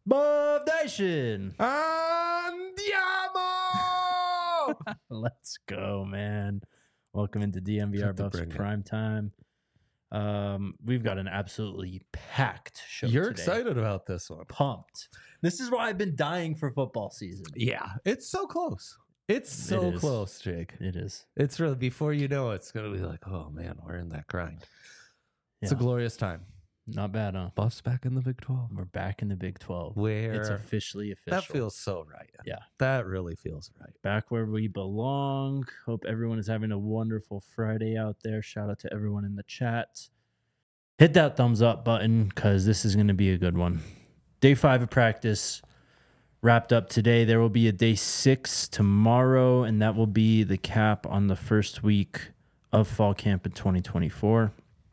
Buff Nation. Andiamo! Let's go, man. Welcome into DMVR Buffs Prime Time. We've got an absolutely packed show You're today. excited about this one. Pumped. This is why I've been dying for football season. Yeah, it's so close. It's so close, Jake. It is. It's really, before you know it's going to be like, oh man, we're in that grind. It's a glorious time. Not bad, huh? Buffs back in the Big 12. We're back in the Big 12. Where it's officially official. That feels so right. Yeah. That really feels right. Back where we belong. Hope everyone is having a wonderful Friday out there. Shout out to everyone in the chat. Hit that thumbs up button because this is going to be a good one. Day 5 of practice wrapped up today. There will be a day 6 tomorrow, and that will be the cap on the first week of fall camp in 2024.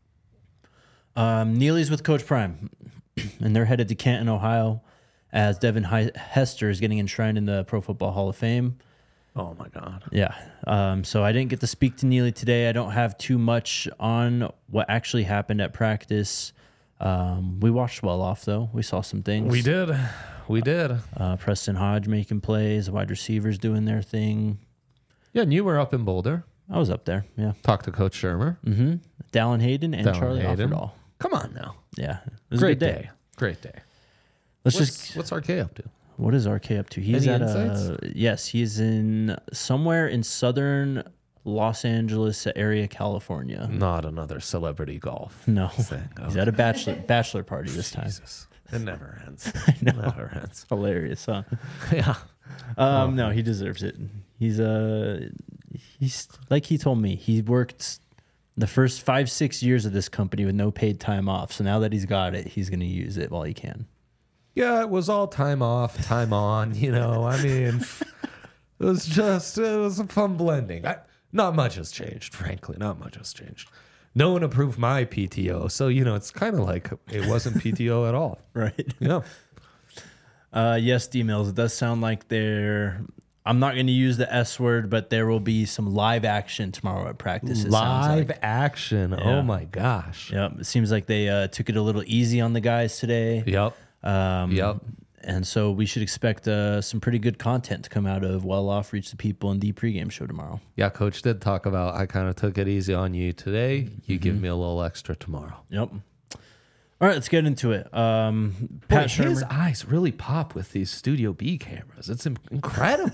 Neely's with Coach Prime, and they're headed to Canton, Ohio, as Devin Hester is getting enshrined in the Pro Football Hall of Fame. Oh, my God. Yeah. So I didn't get to speak to Neely today. I don't have too much on what actually happened at practice. We watched well off, though. We saw some things. We did. Preston Hodge making plays, wide receivers doing their thing. Yeah, and you were up in Boulder. I was up there, yeah. Talked to Coach Shermer. Mm-hmm. Dallin Hayden and Charlie Offerdahl. Come on now. Yeah. It was a good day. Great day. What's RK up to? What is RK up to? He's Any at insights? Yes, he's in somewhere in southern Los Angeles area, California. Not another celebrity golf. No. Thing. He's at a bachelor party this time. Jesus. It never ends. I know. Never ends. Hilarious, huh? Yeah. No, he deserves it. He's like he told me, he worked the first 5-6 years of this company with no paid time off. So now that he's got it, he's going to use it while he can. Yeah, it was all time off, time on, I mean, it was a fun blending. Not much has changed, frankly. Not much has changed. No one approved my PTO. So, it's kind of like it wasn't PTO at all. Right. Yeah. Yes, emails. It does sound like I'm not going to use the S word, but there will be some live action tomorrow at practice. Live action. Yeah. Oh, my gosh. Yep. It seems like they took it a little easy on the guys today. Yep. And so we should expect some pretty good content to come out of Well Off, Reach the People, and the pregame show tomorrow. Yeah, Coach did talk about, I kind of took it easy on you today. You give me a little extra tomorrow. Yep. All right, let's get into it. Pat Shermer. His eyes really pop with these Studio B cameras. It's incredible.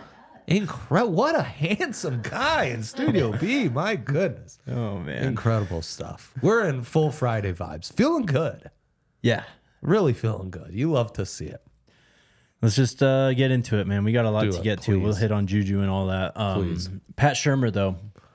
What a handsome guy in Studio B. My goodness. Oh, man. Incredible stuff. We're in full Friday vibes. Feeling good. Yeah. Really feeling good. You love to see it. Let's just get into it, man. We got a lot to get to. We'll hit on Juju and all that. Please. Pat Shermer, though,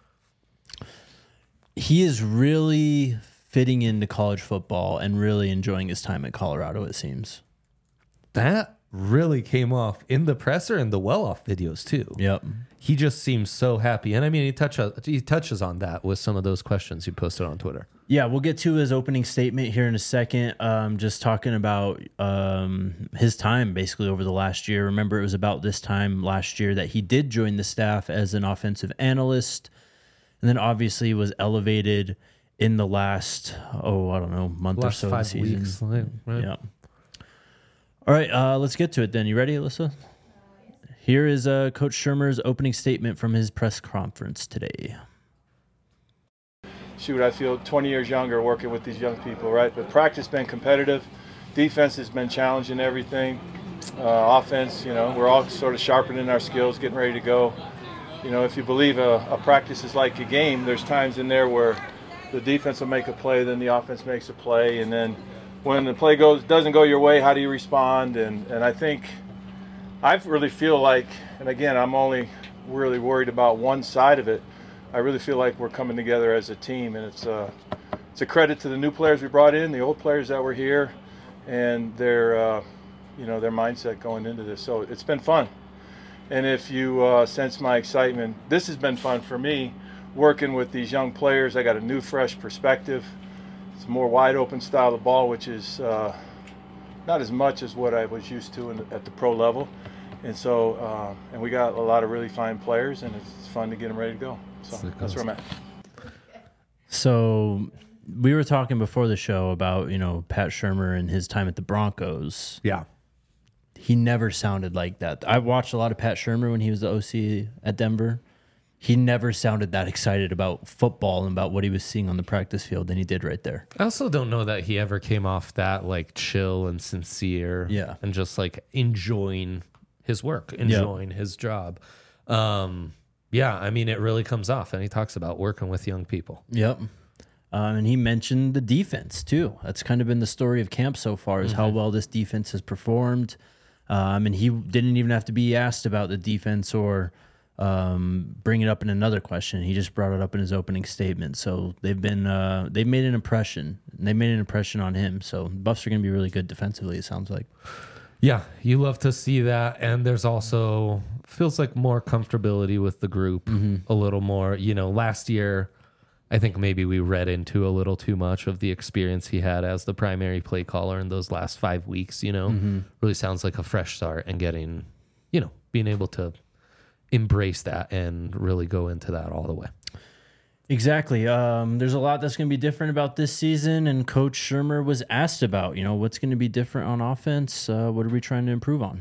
he is really fitting into college football and really enjoying his time at Colorado, it seems. That really came off in the presser and the well-off videos, too. Yep. He just seems so happy. And I mean, he touches on that with some of those questions you posted on Twitter. Yeah, we'll get to his opening statement here in a second. Just talking about his time basically over the last year. Remember, it was about this time last year that he did join the staff as an offensive analyst, and then obviously was elevated in the last, month or so of the season. Weeks, right? Yeah. All right, let's get to it then. You ready, Alyssa? Here is Coach Shermer's opening statement from his press conference today. Shoot, I feel 20 years younger working with these young people, right? But practice been competitive. Defense has been challenging everything. Offense, we're all sort of sharpening our skills, getting ready to go. If you believe a practice is like a game, there's times in there where the defense will make a play, then the offense makes a play, and then when the play doesn't go your way, how do you respond? And I think I really feel like, and again, I'm only really worried about one side of it. I really feel like we're coming together as a team, and it's a credit to the new players we brought in, the old players that were here, and their mindset going into this. So it's been fun. And if you sense my excitement, this has been fun for me, working with these young players. I got a new, fresh perspective. It's a more wide open style of ball, which is not as much as what I was used to at the pro level. And so, and we got a lot of really fine players, and it's fun to get them ready to go. So that's where I'm at. So we were talking before the show about, Pat Shermer and his time at the Broncos. Yeah. he never sounded like that. I watched a lot of Pat Shurmur when he was the OC at Denver. He never sounded that excited about football and about what he was seeing on the practice field than he did right there. I also don't know that he ever came off that like chill and sincere, and just like enjoying his work, enjoying his job. I mean, it really comes off, and he talks about working with young people. Yep. And he mentioned the defense too. That's kind of been the story of camp so far, is how well this defense has performed. And he didn't even have to be asked about the defense or bring it up in another question. He just brought it up in his opening statement. So they've made an impression. And they made an impression on him. So Buffs are going to be really good defensively, it sounds like. Yeah, you love to see that. And there's also feels like more comfortability with the group, a little more. You know, last year, I think maybe we read into a little too much of the experience he had as the primary play caller in those last 5 weeks. Really sounds like a fresh start, and getting, being able to embrace that and really go into that all the way. Exactly. There's a lot that's going to be different about this season, and Coach Shurmur was asked about, what's going to be different on offense. What are we trying to improve on?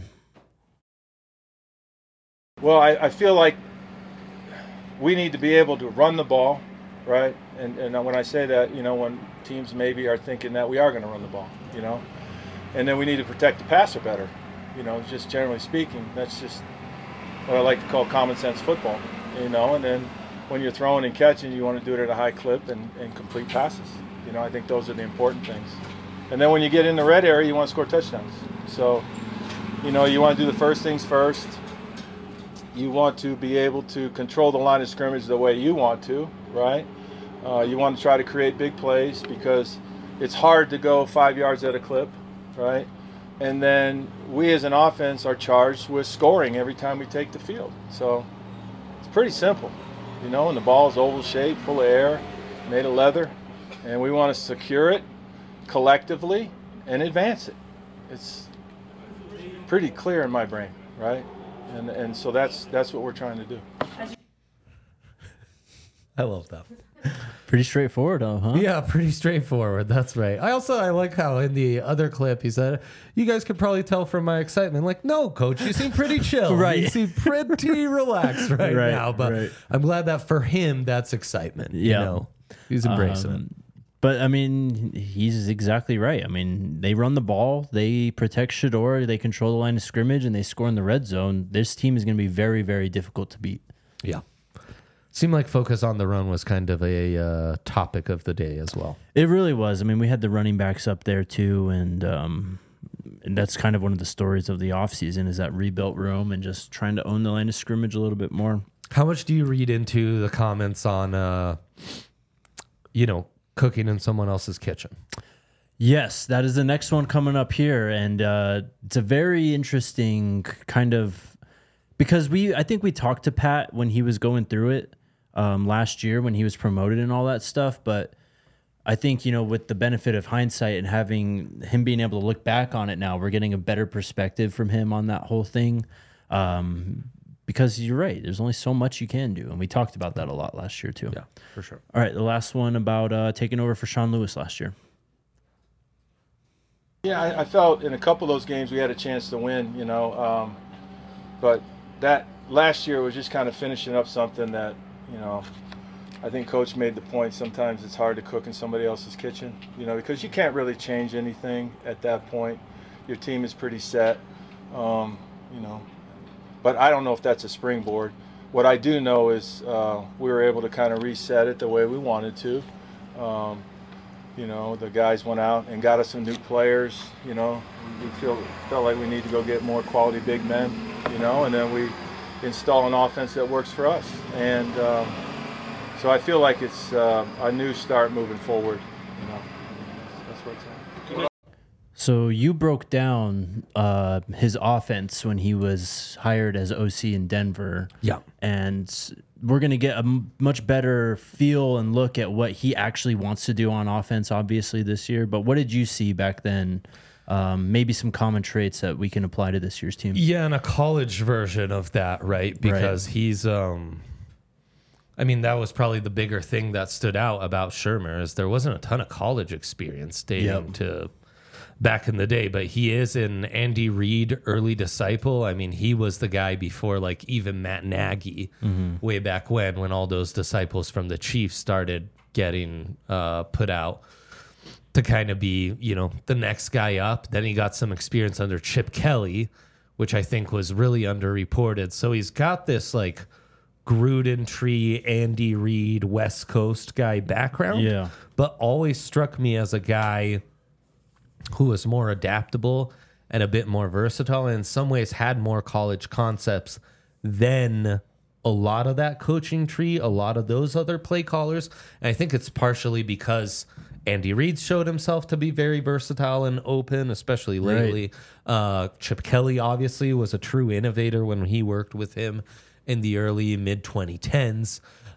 Well, I feel like we need to be able to run the ball, right? And when I say that, when teams maybe are thinking that we are going to run the ball, and then we need to protect the passer better, just generally speaking. That's just what I like to call common sense football, and then when you're throwing and catching, you want to do it at a high clip and complete passes. I think those are the important things. And then when you get in the red area, you want to score touchdowns. So, you want to do the first things first. You want to be able to control the line of scrimmage the way you want to, right? You want to try to create big plays because it's hard to go 5 yards at a clip, right? And then we as an offense are charged with scoring every time we take the field. So it's pretty simple, and the ball is oval shaped, full of air, made of leather, and we want to secure it collectively and advance it. It's pretty clear in my brain, right? And so that's what we're trying to do. I love that. Pretty straightforward, though, huh? Yeah, pretty straightforward. That's right. I like how in the other clip he said, "You guys could probably tell from my excitement." Like, no, Coach, you seem pretty chill. Right. You seem pretty relaxed right now. But I'm glad that for him, that's excitement. Yeah. He's embracing it. But, I mean, he's exactly right. I mean, they run the ball, they protect Shedeur, they control the line of scrimmage, and they score in the red zone. This team is going to be very, very difficult to beat. Yeah. Seemed like focus on the run was kind of a topic of the day as well. It really was. I mean, we had the running backs up there too, and that's kind of one of the stories of the offseason is that rebuilt room and just trying to own the line of scrimmage a little bit more. How much do you read into the comments on, cooking in someone else's kitchen? Yes, that is the next one coming up here, and it's a very interesting kind of because I think we talked to Pat when he was going through it last year when he was promoted and all that stuff, but I think with the benefit of hindsight and having him being able to look back on it now, we're getting a better perspective from him on that whole thing. Because you're right, there's only so much you can do, and we talked about that a lot last year too. Yeah, for sure. All right, the last one about taking over for Sean Lewis last year. Yeah, I felt in a couple of those games we had a chance to win, but that last year was just kind of finishing up something that, I think Coach made the point. Sometimes it's hard to cook in somebody else's kitchen, because you can't really change anything at that point. Your team is pretty set, But I don't know if that's a springboard. What I do know is we were able to kind of reset it the way we wanted to. The guys went out and got us some new players. We felt like we need to go get more quality big men. And then we install an offense that works for us. And so I feel like it's a new start moving forward. That's what it's at. So you broke down his offense when he was hired as OC in Denver. Yeah. And we're going to get a much better feel and look at what he actually wants to do on offense, obviously, this year. But what did you see back then? Maybe some common traits that we can apply to this year's team. Yeah, and a college version of that, right? Because he's... that was probably the bigger thing that stood out about Shurmur is there wasn't a ton of college experience dating to back in the day, but he is an Andy Reid early disciple. I mean, he was the guy before like even Matt Nagy way back when all those disciples from the Chiefs started getting put out to kind of be, you know, the next guy up. Then he got some experience under Chip Kelly, which I think was really underreported. So he's got this like Gruden tree, Andy Reid, West Coast guy background. Yeah. But always struck me as a guy who was more adaptable and a bit more versatile, and in some ways had more college concepts than a lot of that coaching tree, a lot of those other play callers. And I think it's partially because Andy Reid showed himself to be very versatile and open, especially lately. Chip Kelly obviously was a true innovator when he worked with him in the early mid 2010s.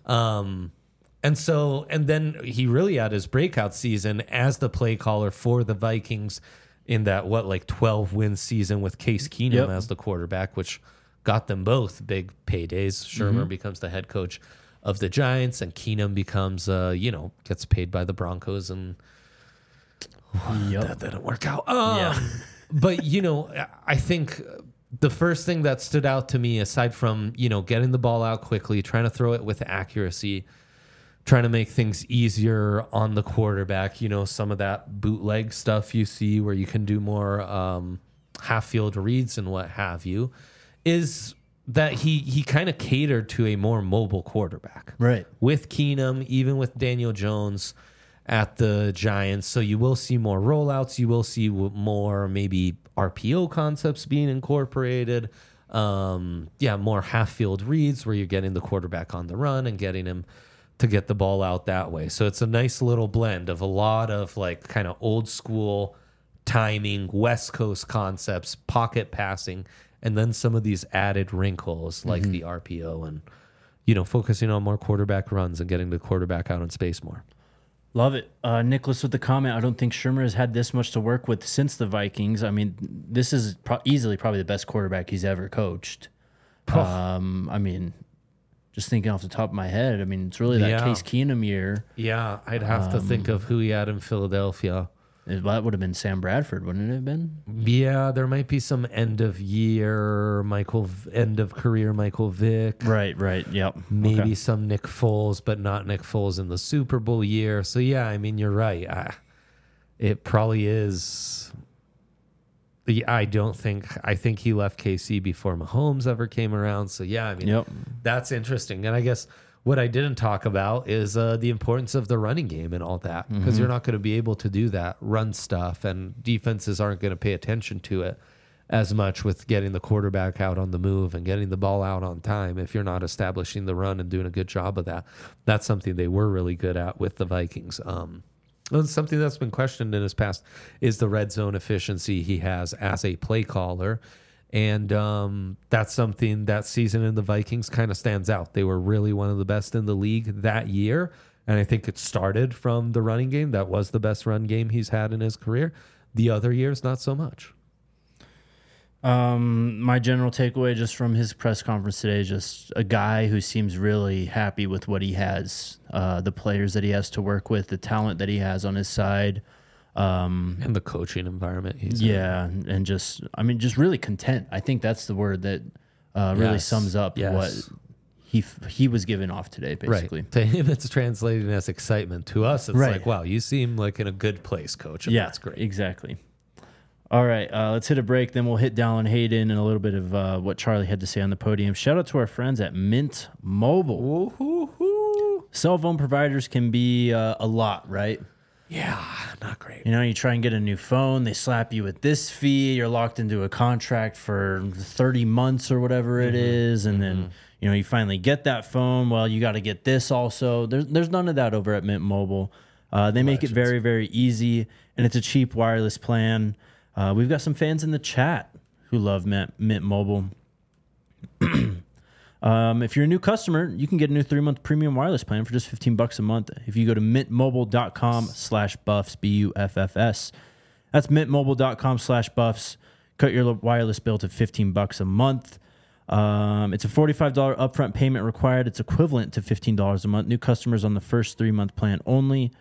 And then he really had his breakout season as the play caller for the Vikings in that 12-win season with Case Keenum as the quarterback, which got them both big paydays. Shermer becomes the head coach of the Giants, and Keenum becomes gets paid by the Broncos, and that didn't work out. But I think the first thing that stood out to me, aside from getting the ball out quickly, trying to throw it with accuracy, trying to make things easier on the quarterback, some of that bootleg stuff you see where you can do more half-field reads and what have you, is that he kind of catered to a more mobile quarterback. Right. With Keenum, even with Daniel Jones at the Giants. So you will see more rollouts. You will see more maybe RPO concepts being incorporated. More half-field reads where you're getting the quarterback on the run and getting him to get the ball out that way. So it's a nice little blend of a lot of like kind of old school timing, West Coast concepts, pocket passing, and then some of these added wrinkles like the RPO and, focusing on more quarterback runs and getting the quarterback out in space more. Love it. Nicholas with the comment, I don't think Shermer has had this much to work with since the Vikings. I mean, this is easily probably the best quarterback he's ever coached. Just thinking off the top of my head, it's really that Case Keenum year. Yeah, I'd have to think of who he had in Philadelphia. That would have been Sam Bradford, wouldn't it have been? Yeah, there might be some end of career Michael Vick. Right. Yep. Maybe some Nick Foles, but not Nick Foles in the Super Bowl year. So yeah, you're right. It probably is. I think he left KC before Mahomes ever came around. So yeah, That's interesting. And I guess what I didn't talk about is the importance of the running game and all that, because you're not going to be able to do that run stuff, and defenses aren't going to pay attention to it as much with getting the quarterback out on the move and getting the ball out on time if you're not establishing the run and doing a good job of that. That's something they were really good at with the Vikings. Something that's been questioned in his past is the red zone efficiency he has as a play caller. And that's something that season in the Vikings kind of stands out. They were really one of the best in the league that year. And I think it started from the running game. That was the best run game he's had in his career. The other years, not so much. My general takeaway just from his press conference today is just a guy who seems really happy with what he has, the players that he has to work with, the talent that he has on his side. And the coaching environment he's in. And just really content. I think that's the word that really sums up what he was giving off today, basically. Right. To him, it's translating as excitement. To us, it's like, wow, you seem like in a good place, coach. And that's great. Exactly. All right, let's hit a break. Then we'll hit Dallin Hayden and a little bit of what Charlie had to say on the podium. Shout out to our friends at Mint Mobile. Ooh. Cell phone providers can be a lot, right? Yeah, not great. You try and get a new phone, they slap you with this fee, you're locked into a contract for 30 months or whatever it is, and then you finally get that phone. Well, you got to get this also. There's none of that over at Mint Mobile. They make it very, very easy, and it's a cheap wireless plan. We've got some fans in the chat who love Mint Mobile. If you're a new customer, you can get a new 3-month premium wireless plan for just $15 a month. If you go to mintmobile.com/buffs, BUFFS, that's mintmobile.com/buffs. Cut your wireless bill to $15 a month. It's a $45 upfront payment required. It's equivalent to $15 a month. New customers on the first 3-month plan only.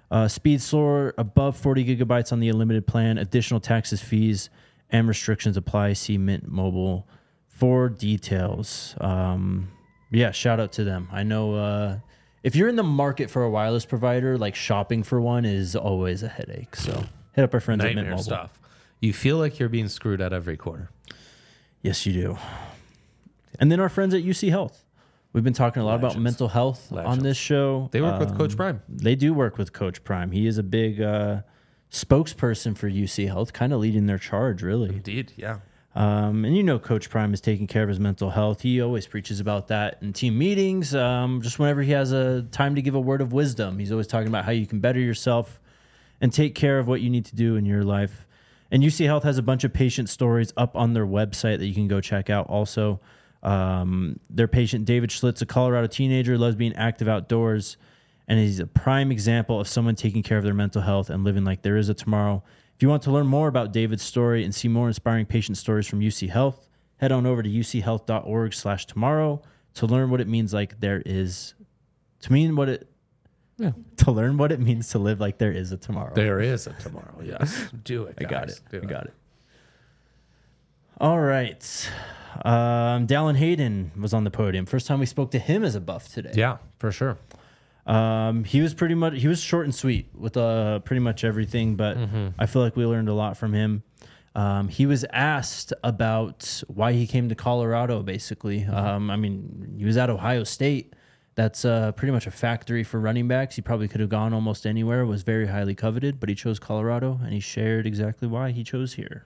Speed slower above 40 gigabytes on the unlimited plan. Additional taxes, fees, and restrictions apply. See Mint Mobile for details. Yeah, shout out to them. I know if you're in the market for a wireless provider, like shopping for one is always a headache. So hit up our friends at Mint Nightmare Mobile. stuff. You feel like you're being screwed at every corner. Yes, you do. And then our friends at UC Health. We've been talking a lot about mental health on this show. They work with Coach Prime. They do work with Coach Prime. He is a big spokesperson for UC Health, kind of leading their charge, really. Indeed, yeah. And you know Coach Prime is taking care of his mental health. He always preaches about that in team meetings. Just whenever he has a time to give a word of wisdom, he's always talking about how you can better yourself and take care of what you need to do in your life. And UC Health has a bunch of patient stories up on their website that you can go check out also. Their patient, David Schlitz, a Colorado teenager, loves being active outdoors, and he's a prime example of someone taking care of their mental health and living like there is a tomorrow. If you want to learn more about David's story and see more inspiring patient stories from UC Health, head on over to uchealth.org/tomorrow to learn what it means like there is to learn what it means to live like there is a tomorrow. There is a tomorrow, yes. Do it, guys. I got it. I got it. All right. Dallin Hayden was on the podium. First time we spoke to him as a Buff today. Yeah, for sure. He was short and sweet with pretty much everything, but I feel like we learned a lot from him. He was asked about why he came to Colorado, basically. I mean, he was at Ohio State. That's pretty much a factory for running backs. He probably could have gone almost anywhere, was very highly coveted, but he chose Colorado, and he shared exactly why he chose here.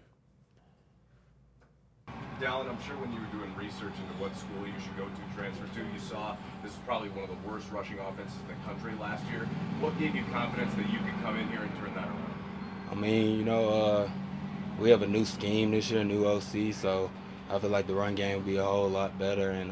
Dallin, I'm sure when you were doing research into what school you should go to, transfer to, you saw this is probably one of the worst rushing offenses in the country last year. What gave you confidence that you could come in here and turn that around? I mean, we have a new scheme this year, a new OC, so I feel like the run game will be a whole lot better, and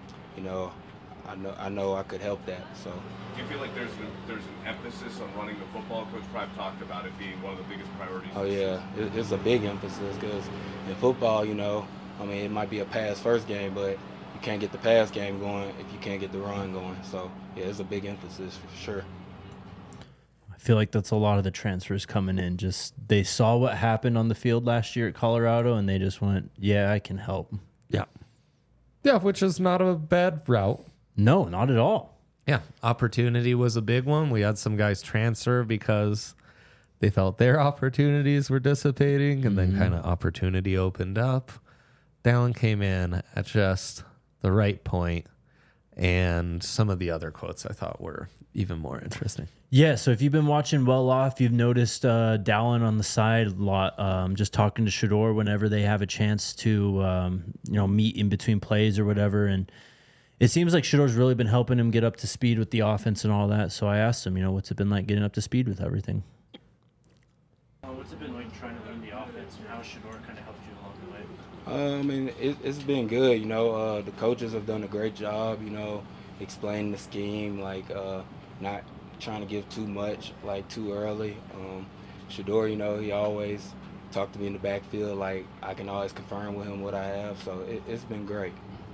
I know I could help that. So. Do you feel like there's an emphasis on running the football? Coach Prime talked about it being one of the biggest priorities. Oh yeah, it's a big emphasis because in football, I mean, it might be a pass-first game, but you can't get the pass game going if you can't get the run going. So, yeah, it's a big emphasis for sure. I feel like that's a lot of the transfers coming in. Just they saw what happened on the field last year at Colorado, and they just went, yeah, I can help. Yeah. Yeah, which is not a bad route. No, not at all. Yeah, opportunity was a big one. We had some guys transfer because they felt their opportunities were dissipating, and then kind of opportunity opened up. Dallin came in at just the right point, and some of the other quotes I thought were even more interesting. Yeah, so if you've been watching Well Off, you've noticed Dallin on the side a lot, just talking to Shedeur whenever they have a chance to, meet in between plays or whatever. And it seems like Shedeur's really been helping him get up to speed with the offense and all that. So I asked him, what's it been like getting up to speed with everything? What's it been like trying to learn the offense, and how Shedeur kind of helped you along the way? I mean, it's been good. The coaches have done a great job, explaining the scheme, not trying to give too much, too early. Shedeur, he always talked to me in the backfield. I can always confirm with him what I have. So it's been great.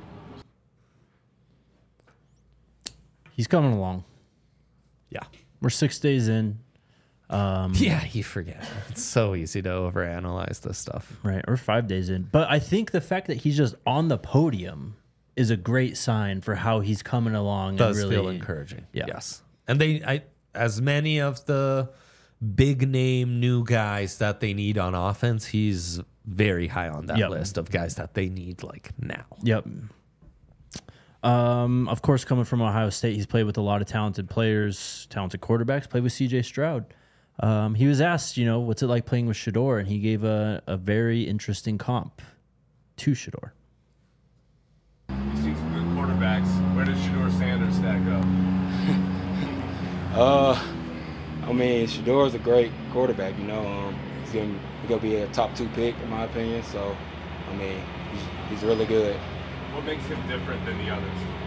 He's coming along. Yeah. We're 6 days in. Yeah, you forget. It's so easy to overanalyze this stuff. Right, or 5 days in. But I think the fact that he's just on the podium is a great sign for how he's coming along. Does and really feel encouraging. Yeah. Yes. And as many of the big name new guys that they need on offense, he's very high on that list of guys that they need now. Yep. Of course, coming from Ohio State, he's played with a lot of talented players, talented quarterbacks, played with CJ Stroud. He was asked, what's it like playing with Shedeur, and he gave a very interesting comp to Shedeur. You've seen some good quarterbacks. Where does Shedeur Sanders stack up? Shedeur's a great quarterback, He's going to be a top 2 pick, in my opinion. So, he's really good. What makes him different than the others?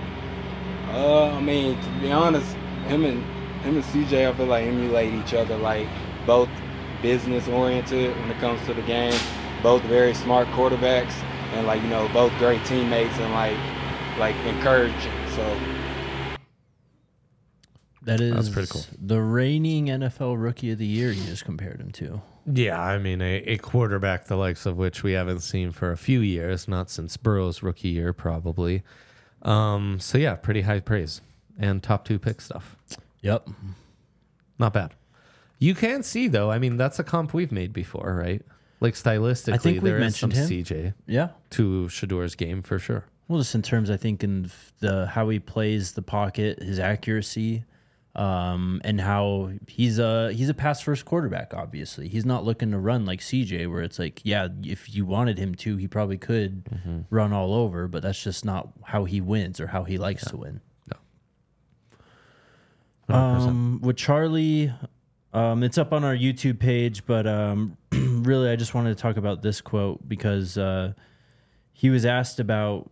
To be honest, him and CJ, I feel like emulate each other. Both business oriented when it comes to the game, both very smart quarterbacks, and both great teammates and encouraging. So That is That's pretty cool. The reigning NFL Rookie of the Year you just compared him to. Yeah, I mean, a quarterback the likes of which we haven't seen for a few years, not since Burrow's rookie year, probably. So, yeah, pretty high praise. And top 2 pick stuff. Yep. Not bad. You can see, though, I mean, that's a comp we've made before, right? Like, stylistically, I think we've there is some mentioned him. CJ Yeah. to Shador's game for sure. Well, just in terms, I think, in the how he plays the pocket, his accuracy, and how he's a pass first quarterback. Obviously, he's not looking to run like CJ, where it's like, yeah, if you wanted him to, he probably could run all over, but that's just not how he wins or how he likes to win. No. 100%. With Charlie, it's up on our YouTube page, but really, I just wanted to talk about this quote because he was asked about.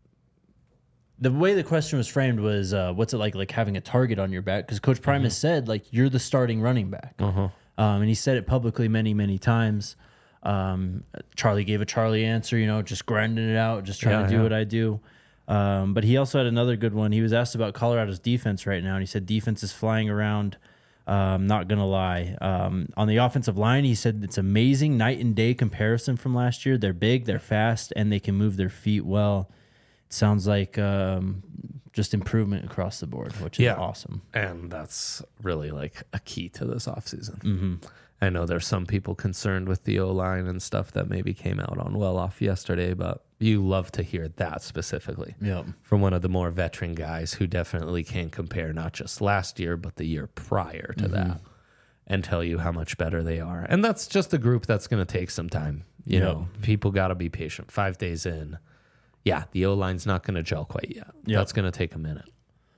The way the question was framed was, what's it like having a target on your back? Because Coach Primus said, like, you're the starting running back. And he said it publicly many, many times. Charlie gave a Charlie answer, just grinding it out, just trying to do what I do. But he also had another good one. He was asked about Colorado's defense right now, and he said defense is flying around. Not going to lie. On the offensive line, he said it's amazing night and day comparison from last year. They're big, they're fast, and they can move their feet well. Sounds like just improvement across the board, which is awesome. And that's really like a key to this offseason. I know there's some people concerned with the O-line and stuff that maybe came out on well-off yesterday, but you love to hear that specifically from one of the more veteran guys who definitely can compare not just last year, but the year prior to that and tell you how much better they are. And that's just a group that's going to take some time. You know, people got to be patient. 5 days in. Yeah, the O-line's not going to gel quite yet. That's going to take a minute.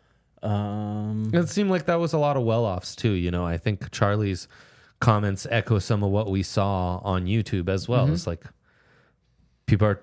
It seemed like that was a lot of well-offs, too. I think Charlie's comments echo some of what we saw on YouTube as well. It's like people are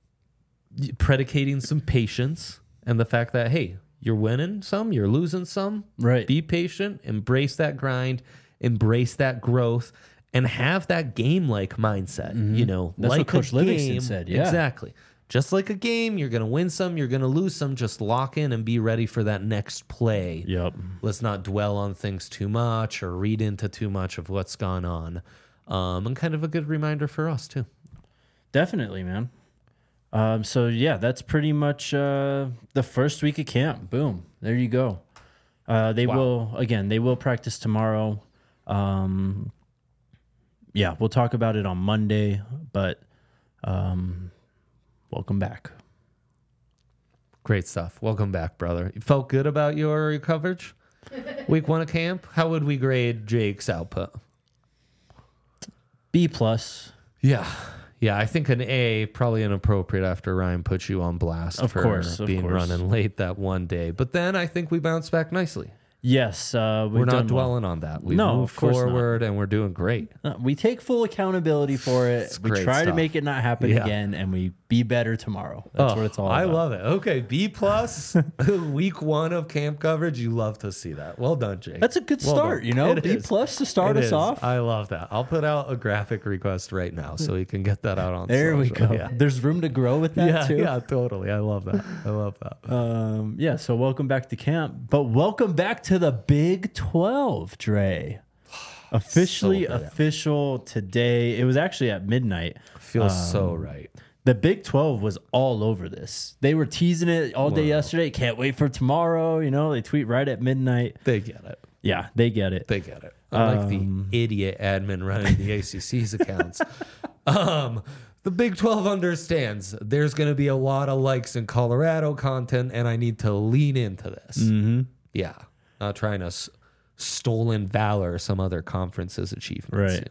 predicating some patience and the fact that, hey, you're winning some, you're losing some. Right. Be patient, embrace that grind, embrace that growth, and have that game-like mindset. That's like what Coach Livingston said. Yeah. Exactly. Just like a game, you're going to win some, you're going to lose some. Just lock in and be ready for that next play. Yep. Let's not dwell on things too much or read into too much of what's gone on. And kind of a good reminder for us, too. Definitely, man. So, yeah, that's pretty much the first week of camp. Boom. There you go. They will practice tomorrow. We'll talk about it on Monday, but... welcome back. Great stuff. Welcome back, brother. You felt good about your coverage? Week 1 of camp? How would we grade Jake's output? B+. Yeah, I think an A, probably inappropriate after Ryan put you on blast of course. running late that one day. But then I think we bounced back nicely. Yes. We're not dwelling on that. We move forward and we're doing great. We take full accountability for it. We try to make it not happen again, and we be better tomorrow. That's what it's all about. I love it. Okay, B+, week 1 of camp coverage. You love to see that. Well done, Jake. That's a good start, B+ to start us off. I love that. I'll put out a graphic request right now so we can get that out on there social. We go. Yeah. There's room to grow with that too. Yeah, totally. I love that. So welcome back to camp, but welcome back to the Big 12, Dre. Officially official today. It was actually at midnight. Feels so right. The Big 12 was all over this. They were teasing it all day yesterday. Can't wait for tomorrow. They tweet right at midnight. They get it. Yeah, they get it. They get it. Unlike the idiot admin running the ACC's accounts. The Big 12 understands there's going to be a lot of likes in Colorado content, and I need to lean into this. Yeah. Not trying to stolen valor some other conference's achievements,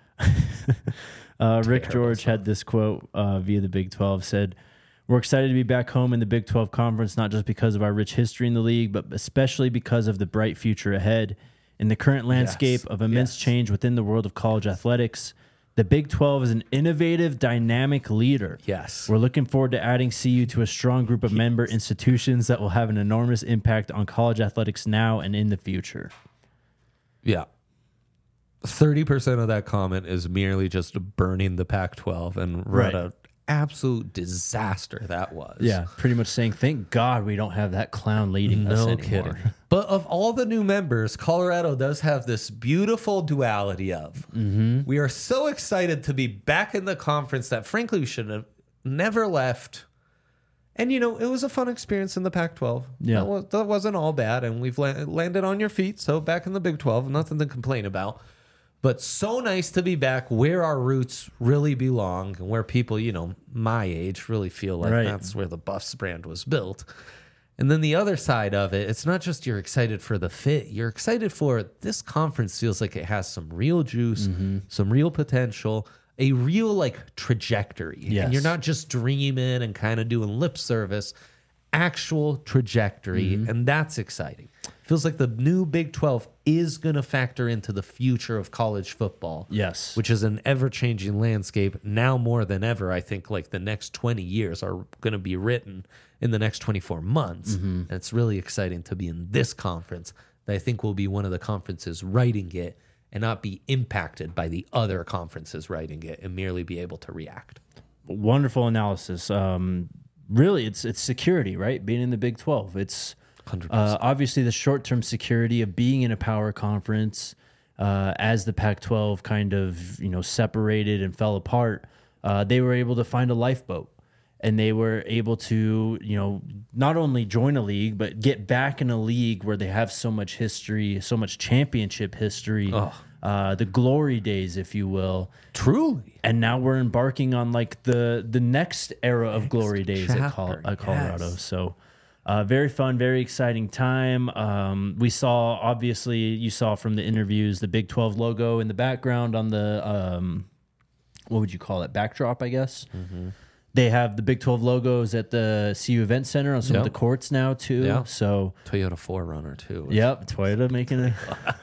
Rick George had this quote via the Big 12, said, "We're excited to be back home in the Big 12 Conference, not just because of our rich history in the league, but especially because of the bright future ahead. In the current landscape of immense change within the world of college athletics, the Big 12 is an innovative, dynamic leader. Yes. We're looking forward to adding CU to a strong group of member institutions that will have an enormous impact on college athletics now and in the future." Yeah. 30% of that comment is merely just burning the Pac-12 and what an absolute disaster that was. Yeah, pretty much saying, thank God we don't have that clown leading us No anymore. kidding. But of all the new members, Colorado does have this beautiful duality of we are so excited to be back in the conference that frankly we should have never left. And, you know, it was a fun experience in the Pac-12. Yeah. That wasn't all bad. And we've landed on your feet. So back in the Big 12, nothing to complain about. But so nice to be back where our roots really belong and where people, you know, my age really feel like Right. that's where the Buffs brand was built. And then the other side of it, it's not just you're excited for the fit. You're excited for this conference feels like it has some real juice, some real potential, a real like trajectory. Yes. And you're not just dreaming and kind of doing lip service, actual trajectory. And that's exciting. Feels like the new Big 12 is going to factor into the future of college football. Yes. Which is an ever-changing landscape now more than ever. I think like the next 20 years are going to be written in the next 24 months. And it's really exciting to be in this conference that I think will be one of the conferences writing it and not be impacted by the other conferences writing it and merely be able to react. Wonderful analysis. Really, it's security, right? Being in the Big 12. It's 100%. obviously the short-term security of being in a power conference as the Pac-12 kind of, you know, separated and fell apart. They were able to find a lifeboat. And they were able to, you know, not only join a league, but get back in a league where they have so much history, so much championship history, the glory days, if you will. Truly. And now we're embarking on like the next era of glory days at chapter, Colorado. yes. So very fun, very exciting time. We saw, obviously, you saw from the interviews, the Big 12 logo in the background on the, what would you call it, backdrop, I guess. They have the Big 12 logos at the CU Event Center on some of Yep. the courts now, too. Yep. So, Toyota 4Runner, too. yep, Toyota making a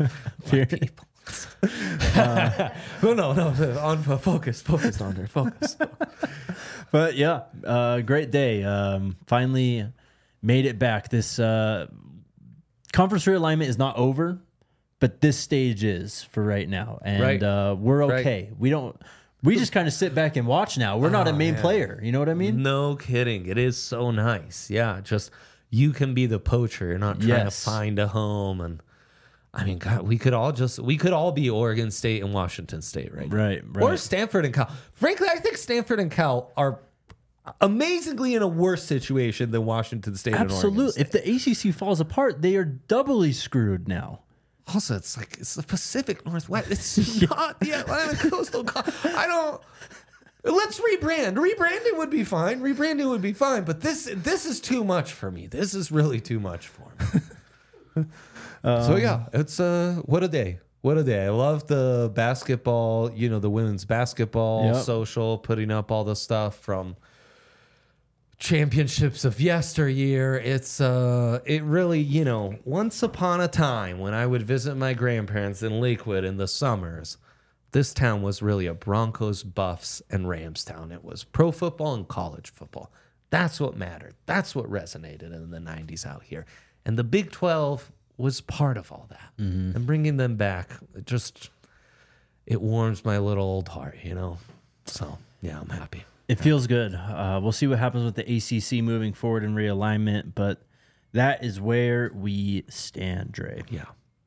No. On focus, Andre, focus. But yeah, great day. Finally made it back. This conference realignment is not over, but this stage is for right now, and Right. we're okay. We just kind of sit back and watch now. We're not a main player. You know what I mean? No kidding. It is so nice. Yeah, just you can be the poacher. You're not trying Yes. to find a home. And I mean, God, we could all be Oregon State and Washington State right now. Right. Or Stanford and Cal. Frankly, I think Stanford and Cal are amazingly in a worse situation than Washington State and Oregon Absolutely. State. If the ACC falls apart, they are doubly screwed now. Also, it's the Pacific Northwest. It's not the Atlantic Coastal. Let's rebrand. Rebranding would be fine. But this is too much for me. This is really too much for me. So yeah, it's what a day. What a day. I love the basketball. You know, the women's basketball Yep. social, putting up all the stuff from championships of yesteryear. It's it really, you know, once upon a time when I would visit my grandparents in Lakewood in the summers, this town was really a Broncos, Buffs, and Rams town. It was pro football and college football. That's what mattered. That's what resonated in the 90s out here. And the Big 12 was part of all that. And bringing them back, it warms my little old heart, you know? So, yeah, I'm happy. It feels good. We'll see what happens with the ACC moving forward in realignment, but that is where we stand, Dre. Yeah.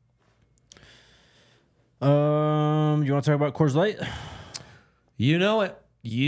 You want to talk about Coors Light? You know it.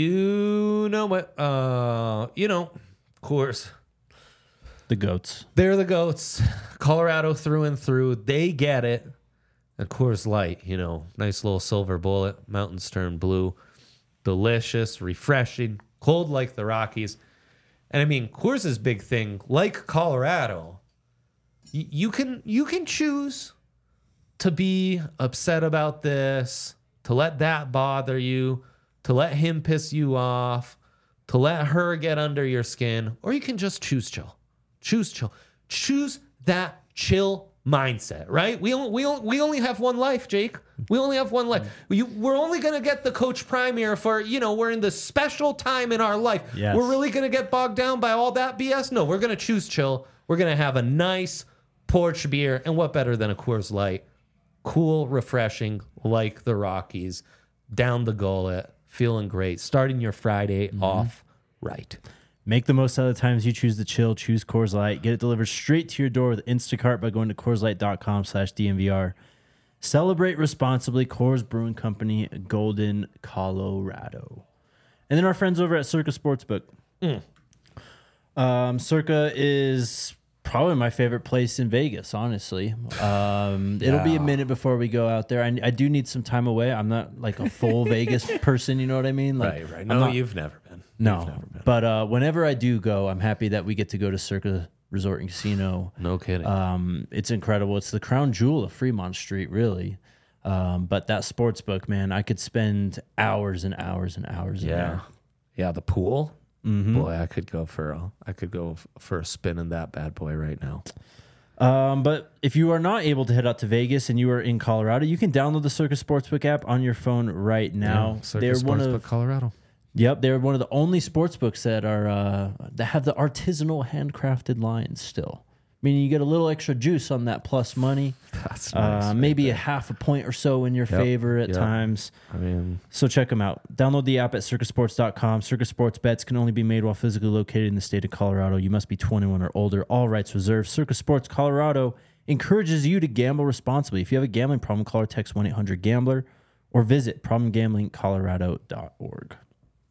Coors. The goats. They're the goats. Colorado through and through. They get it. And Coors Light, you know, nice little silver bullet, Mountain Stern blue. Delicious, refreshing, cold like the Rockies. And I mean, Coors' big thing, like Colorado, you can choose to be upset about this, to let that bother you, to let him piss you off, to let her get under your skin, or you can just choose chill. Choose chill. Choose that chill mindset, right? We only have one life, Jake. We only have one life. We're only going to get the Coach Premier for, you know, we're in this special time in our life. Yes. We're really going to get bogged down by all that BS? No, we're going to choose chill. We're going to have a nice porch beer. And what better than a Coors Light? Cool, refreshing, like the Rockies, down the gullet, feeling great, starting your Friday off right. Make the most out of the times you choose to chill. Choose Coors Light. Get it delivered straight to your door with Instacart by going to CoorsLight.com/DNVR. Celebrate responsibly. Coors Brewing Company, Golden, Colorado. And then our friends over at Circa Sportsbook. Circa is probably my favorite place in Vegas, honestly. It'll be a minute before we go out there. I do need some time away. I'm not like a full Vegas person, you know what I mean? Like, Right. No, you've never been. No, You've never been. but whenever I do go, I'm happy that we get to go to Circa Resort and Casino. No kidding. It's incredible. It's the crown jewel of Fremont Street, really. But that sports book, man, I could spend hours and hours and hours in there. Yeah, the pool. Boy, I could go for a spin in that bad boy right now. But if you are not able to head out to Vegas and you are in Colorado, you can download the Circa Sportsbook app on your phone right now. Circa They're one Sportsbook of Colorado. Yep, they're one of the only sports books that are that have the artisanal handcrafted lines still. Meaning you get a little extra juice on that plus money. That's nice. Maybe a half a point or so in your favor at times. I mean, So check them out. Download the app at circasports.com. Circa Sports bets can only be made while physically located in the state of Colorado. You must be 21 or older. All rights reserved. Circa Sports Colorado encourages you to gamble responsibly. If you have a gambling problem, call or text 1-800-GAMBLER or visit problemgamblingcolorado.org.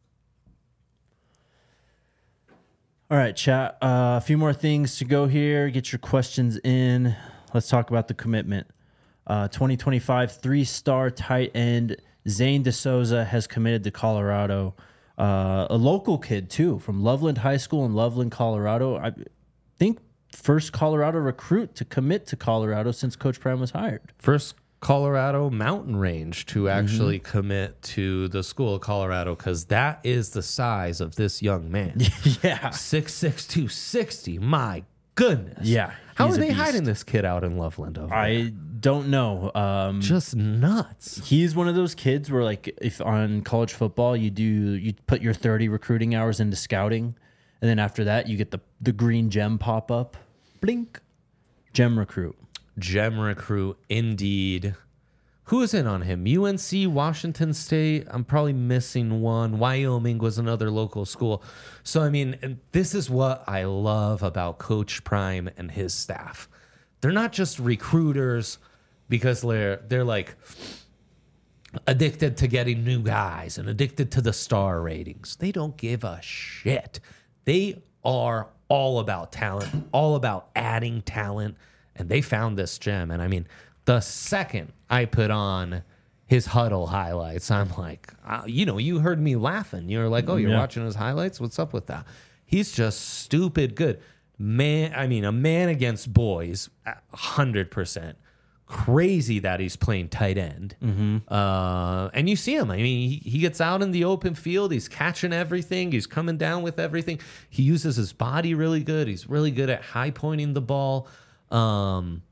All right, chat. A few more things to go here. Get your questions in. Let's talk about the commitment. 2025 three-star tight end Zane DeSouza has committed to Colorado. A local kid, too, from Loveland High School in Loveland, Colorado. I think first Colorado recruit to commit to Colorado since Coach Prime was hired. first Colorado mountain range to actually commit to the school of Colorado, because that is the size of this young man. Yeah. 6'6", 260. My goodness. Yeah, How he's are a they beast. hiding this kid out in Loveland over there? I don't know. Just nuts. He's one of those kids where, like, if on college football you put your 30 recruiting hours into scouting, and then after that you get the green gem pop up, blink, gem recruit. Gem recruit, indeed. Who is in on him? UNC, Washington State. I'm probably missing one. Wyoming was another local school. So, I mean, and this is what I love about Coach Prime and his staff. They're not just recruiters because they're like addicted to getting new guys and addicted to the star ratings. They don't give a shit. They are all about talent, all about adding talent. And they found this gem. And I mean, the second I put on his huddle highlights, I'm like, you heard me laughing. You're like, oh, you're watching his highlights? What's up with that? He's just stupid good. Man, I mean, a man against boys, 100%. Crazy that he's playing tight end. And you see him. I mean, he gets out in the open field. He's catching everything. He's coming down with everything. He uses his body really good. He's really good at high pointing the ball. And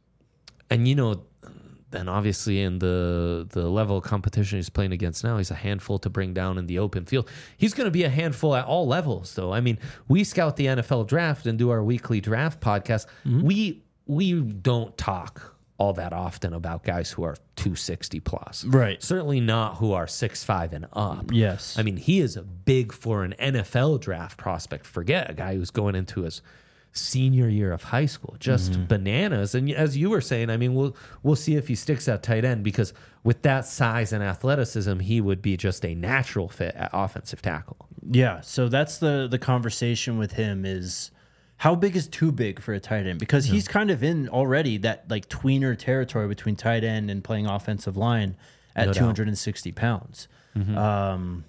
then obviously in the level of competition he's playing against now, he's a handful to bring down in the open field. He's going to be a handful at all levels, though. I mean, we scout the NFL draft and do our weekly draft podcast. We don't talk all that often about guys who are 260 plus. Right. Certainly not who are 6'5" and up. Yes. I mean, he is big for an NFL draft prospect. Forget a guy who's going into his senior year of high school, just bananas. And as you were saying, I mean, we'll see if he sticks at tight end, because with that size and athleticism, he would be just a natural fit at offensive tackle. Yeah, so that's the conversation with him is how big is too big for a tight end? Because he's kind of in already that like tweener territory between tight end and playing offensive line at No doubt. 260 pounds. What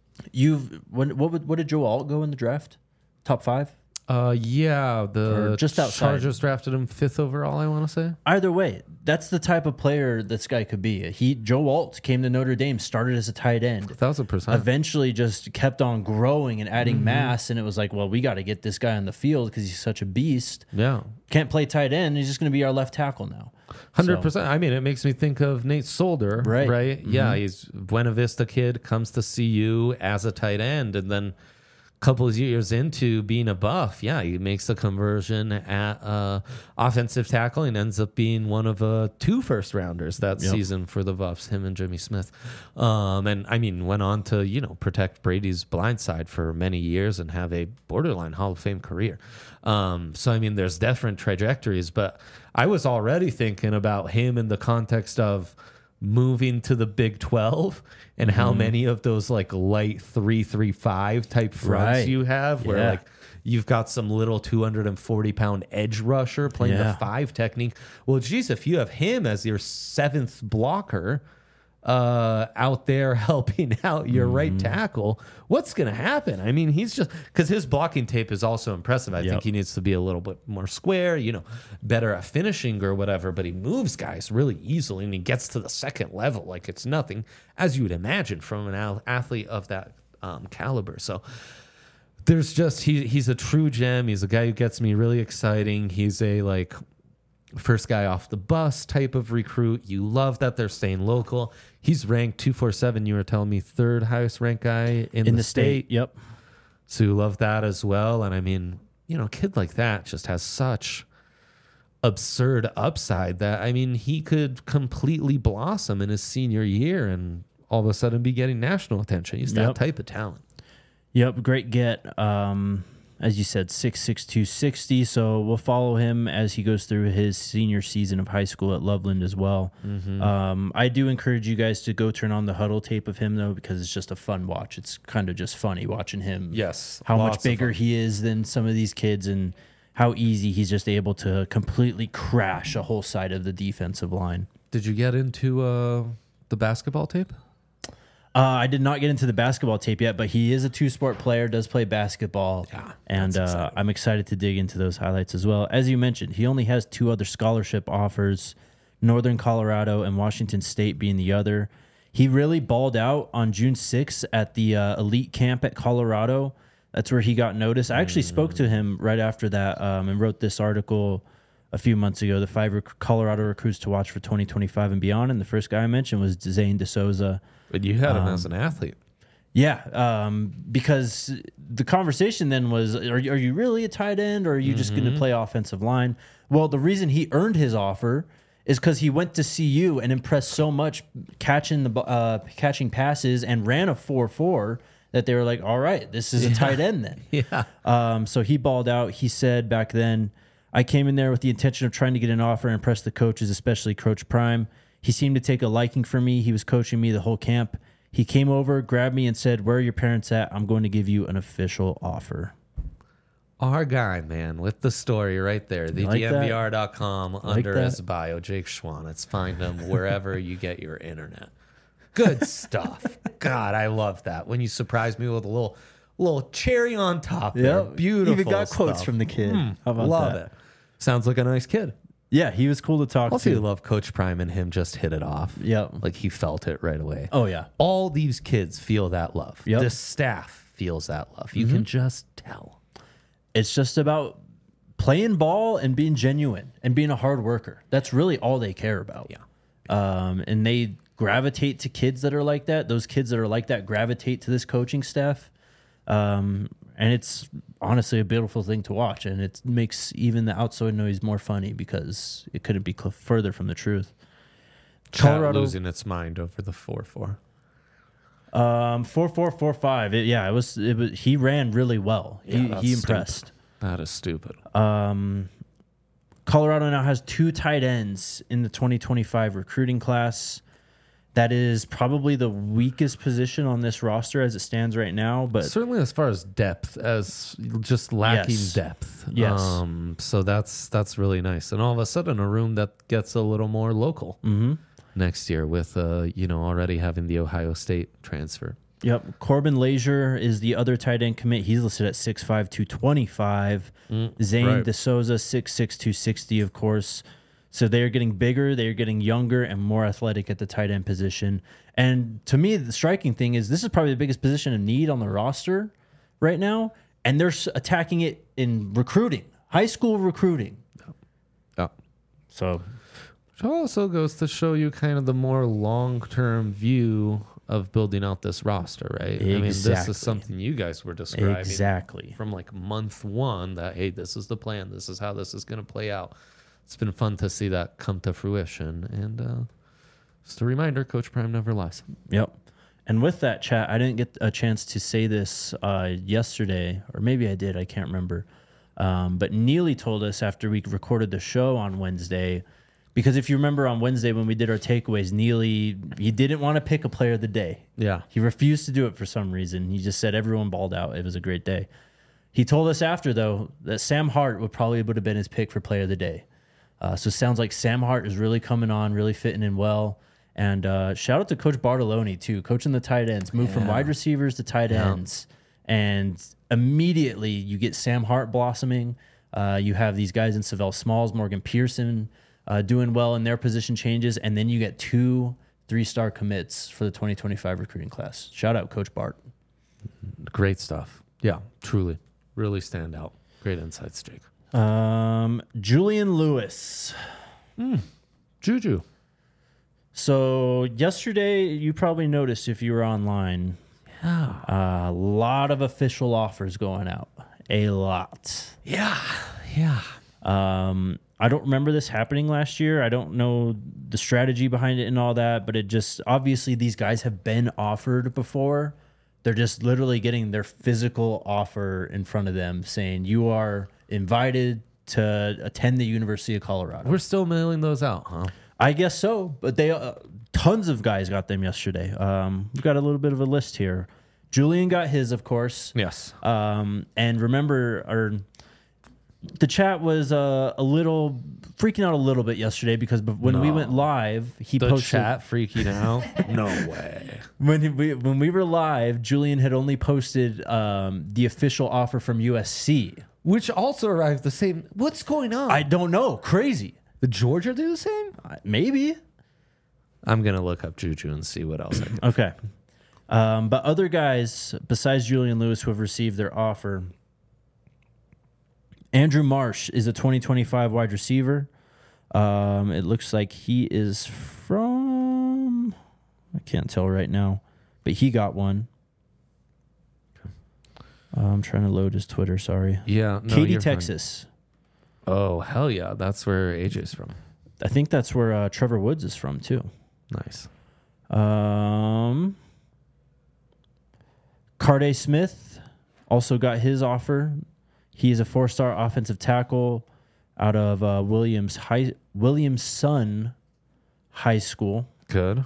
did Joe Alt go in the draft? Top 5? Yeah, the Or just outside. Chargers drafted him 5th overall, I want to say. Either way, that's the type of player this guy could be. Joe Alt came to Notre Dame, started as a tight end. 1,000%. Eventually just kept on growing and adding mass, and it was like, well, we got to get this guy on the field because he's such a beast. Yeah. Can't play tight end. He's just going to be our left tackle now. 100%. I mean, it makes me think of Nate Solder, Right. Yeah, he's Buena Vista kid, comes to CU as a tight end, and then couple of years into being a Buff, yeah, he makes the conversion at offensive tackle and ends up being one of 2 first rounders that season for the Buffs, him and Jimmy Smith. And I mean, went on to, protect Brady's blind side for many years and have a borderline Hall of Fame career. So, I mean, there's different trajectories, but I was already thinking about him in the context of moving to the Big 12 and how many of those like light 3-3-5 type fronts you have where like you've got some little 240-pound edge rusher playing the 5 technique. Well, geez, if you have him as your 7th blocker out there helping out your right tackle, what's going to happen? I mean, he's just, because his blocking tape is also impressive. I think he needs to be a little bit more square, better at finishing or whatever, but he moves guys really easily and he gets to the second level like it's nothing, as you would imagine from an athlete of that caliber. So there's just, he's a true gem. He's a guy who gets me really exciting. He's a like first guy off the bus type of recruit. You love that they're staying local. He's ranked 247. You were telling me 3rd highest ranked guy in the state. Yep. So you love that as well. And I mean, a kid like that just has such absurd upside that, I mean, he could completely blossom in his senior year and all of a sudden be getting national attention. He's that type of talent. Yep. Great get. As you said, 6'6", 260. So we'll follow him as he goes through his senior season of high school at Loveland as well. I do encourage you guys to go turn on the huddle tape of him, though, because it's just a fun watch. It's kind of just funny watching him. Yes. How much bigger he is than some of these kids and how easy he's just able to completely crash a whole side of the defensive line. Did you get into the basketball tape? I did not get into the basketball tape yet, but he is a 2-sport player, does play basketball. Yeah, and I'm excited to dig into those highlights as well. As you mentioned, he only has 2 other scholarship offers, Northern Colorado and Washington State being the other. He really balled out on June 6th at the elite camp at Colorado. That's where he got noticed. I actually spoke to him right after that and wrote this article a few months ago, the 5 Colorado recruits to watch for 2025 and beyond. And the first guy I mentioned was Zane DeSouza. But you had him as an athlete. Yeah, because the conversation then was, are you really a tight end or are you just going to play offensive line? Well, the reason he earned his offer is because he went to CU and impressed so much catching passes and ran a 4.4 that they were like, all right, this is a tight end then. Yeah. So he balled out. He said back then, I came in there with the intention of trying to get an offer and impress the coaches, especially Coach Prime. He seemed to take a liking for me. He was coaching me the whole camp. He came over, grabbed me, and said, where are your parents at? I'm going to give you an official offer. Our guy, man, with the story right there. The DMVR.com under his bio, Jake Schwanitz. Find him wherever you get your internet. Good stuff. God, I love that. When you surprise me with a little cherry on top there. Beautiful Even got quotes stuff. from the kid. How about love that? it. Sounds like a nice kid. Yeah, he was cool to talk Also, to. you love Coach Prime and him just hit it off. Yep. Like he felt it right away. Oh, yeah. All these kids feel that love. Yep. The staff feels that love. You can just tell. It's just about playing ball and being genuine and being a hard worker. That's really all they care about. Yeah. And they gravitate to kids that are like that. Those kids that are like that gravitate to this coaching staff. And it's honestly a beautiful thing to watch. And it makes even the outside noise more funny because it couldn't be further from the truth. Colorado losing its mind over the 4.4. 4.445. It was. He ran really well. He impressed. Stupid. That is stupid. Colorado now has 2 tight ends in the 2025 recruiting class. That is probably the weakest position on this roster as it stands right now. But certainly as far as depth, as just lacking depth. Yes. So that's really nice. And all of a sudden, a room that gets a little more local next year with already having the Ohio State transfer. Yep. Corbin Lazier is the other tight end commit. He's listed at 6'5", 225. Zane DeSouza, 6'6", 260, of course. So they are getting bigger, they are getting younger and more athletic at the tight end position. And to me, the striking thing is this is probably the biggest position of need on the roster right now. And they're attacking it in recruiting, high school recruiting. Yeah. So which also goes to show you kind of the more long-term view of building out this roster, right? I mean, this Exactly. is something you guys were describing Exactly. from like month one that, hey, this is the plan. This is how this is going to play out. It's been fun to see that come to fruition. And just a reminder, Coach Prime never lies. Yep. And with that, chat, I didn't get a chance to say this yesterday, or maybe I did. I can't remember. But Neely told us after we recorded the show on Wednesday, because if you remember on Wednesday when we did our takeaways, Neely, he didn't want to pick a player of the day. Yeah. He refused to do it for some reason. He just said everyone balled out. It was a great day. He told us after, though, that Sam Hart would have been his pick for player of the day. So it sounds like Sam Hart is really coming on, really fitting in well. And shout out to Coach Bartoloni, too, coaching the tight ends, moved from wide receivers to tight ends. And immediately you get Sam Hart blossoming. You have these guys in Savell Smalls, Morgan Pearson doing well in their position changes. And then you get 2 3-star commits for the 2025 recruiting class. Shout out Coach Bart. Great stuff. Yeah, truly. Really stand out. Great insights, Jake. Julian Lewis. Juju. So yesterday, you probably noticed if you were online, a lot of official offers going out. A lot. Yeah. I don't remember this happening last year. I don't know the strategy behind it and all that, but it just, obviously these guys have been offered before. They're just literally getting their physical offer in front of them saying you are invited to attend the University of Colorado. We're still mailing those out, huh? I guess so, but they tons of guys got them yesterday. We've got a little bit of a list here. Julian got his, of course. Yes. And remember, the chat was a little freaking out a little bit yesterday because when we went live, he The posted chat freaking out? No way. when we were live. Julian had only posted the official offer from USC. Which also arrived the same. What's going on? I don't know, crazy. Did Georgia do the same? Maybe. I'm going to look up Juju and see what else I can. Okay. But other guys besides Julian Lewis who have received their offer. Andrew Marsh is a 2025 wide receiver. It looks like he is from, I can't tell right now, but he got one. I'm trying to load his Twitter, sorry. Yeah. No, Katy, you're fine. Texas. Oh, hell yeah. That's where AJ's from. I think that's where Trevor Woods is from, too. Nice. Carday Smith also got his offer. He's a 4-star offensive tackle out of Williamson High School. Good.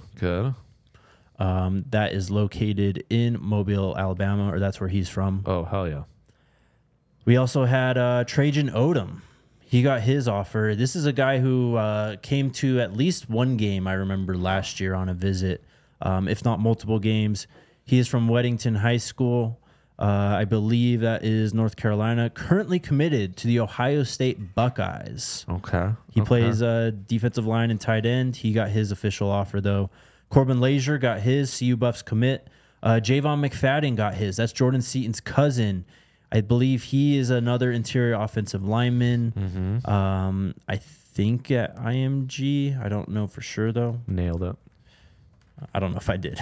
That is located in Mobile, Alabama, or that's where he's from. Oh, hell yeah. We also had Trajan Odom. He got his offer. This is a guy who came to at least one game, I remember, last year on a visit, if not multiple games. He is from Weddington High School. I believe that is North Carolina. Currently committed to the Ohio State Buckeyes. Okay. He plays defensive line and tight end. He got his official offer, though. Corbin Lazier got his CU Buffs commit. Javon McFadden got his. That's Jordan Seaton's cousin. I believe he is another interior offensive lineman. I think at IMG. I don't know for sure, though. Nailed it. I don't know if I did.